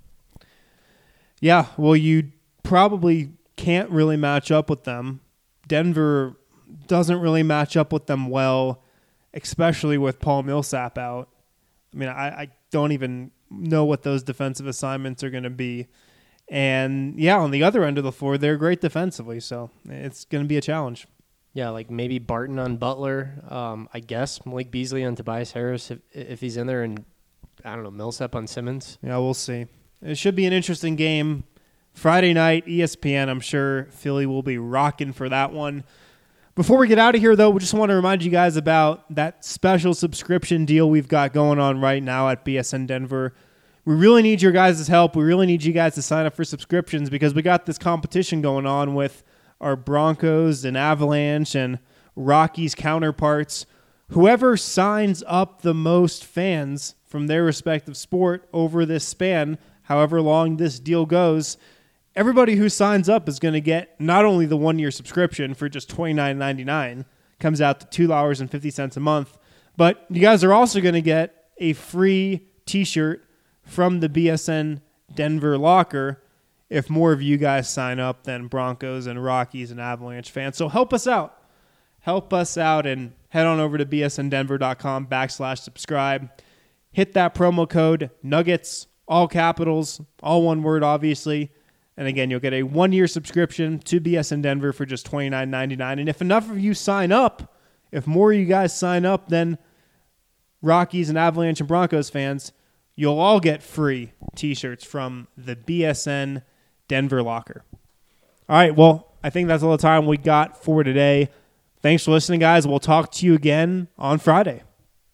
Yeah, well, you probably can't really match up with them. Denver doesn't really match up with them well, especially with Paul Millsap out. I mean, I, I don't even know what those defensive assignments are going to be. And, yeah, on the other end of the floor, they're great defensively, so it's going to be a challenge. Yeah, like maybe Barton on Butler, um, I guess. Malik Beasley on Tobias Harris if, if he's in there, and, I don't know, Millsap on Simmons. Yeah, we'll see. It should be an interesting game. Friday night, E S P N, I'm sure Philly will be rocking for that one. Before we get out of here, though, we just want to remind you guys about that special subscription deal we've got going on right now at B S N Denver. We really need your guys' help. We really need you guys to sign up for subscriptions because we got this competition going on with our Broncos and Avalanche and Rockies counterparts. Whoever signs up the most fans from their respective sport over this span, however long this deal goes, everybody who signs up is going to get not only the one-year subscription for just twenty-nine ninety-nine, comes out to two dollars and fifty cents a month, but you guys are also going to get a free t-shirt from the B S N Denver locker if more of you guys sign up than Broncos and Rockies and Avalanche fans. So help us out. Help us out and head on over to bsndenver.com backslash subscribe. Hit that promo code Nuggets, all capitals, all one word, obviously. And again, you'll get a one-year subscription to B S N Denver for just twenty-nine ninety-nine. And if enough of you sign up, if more of you guys sign up than Rockies and Avalanche and Broncos fans, you'll all get free t-shirts from the B S N Denver locker. All right, well, I think that's all the time we got for today. Thanks for listening, guys. We'll talk to you again on Friday.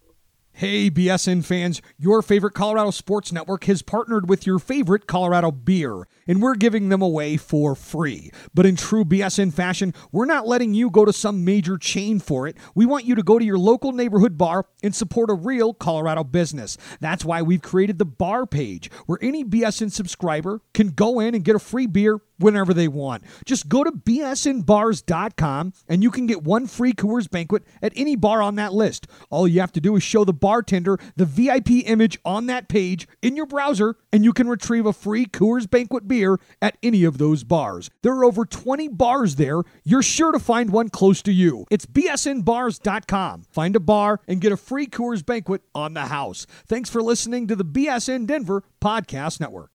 Hey, B S N fans, your favorite Colorado Sports Network has partnered with your favorite Colorado beer, and we're giving them away for free. But in true B S N fashion, we're not letting you go to some major chain for it. We want you to go to your local neighborhood bar and support a real Colorado business. That's why we've created the bar page, where any B S N subscriber can go in and get a free beer whenever they want. Just go to b s n bars dot com and you can get one free Coors Banquet at any bar on that list. All you have to do is show the bartender the V I P image on that page in your browser and you can retrieve a free Coors Banquet beer at any of those bars. There are over twenty bars there. You're sure to find one close to you. It's b s n bars dot com. Find a bar and get a free Coors Banquet on the house. Thanks for listening to the B S N Denver Podcast Network.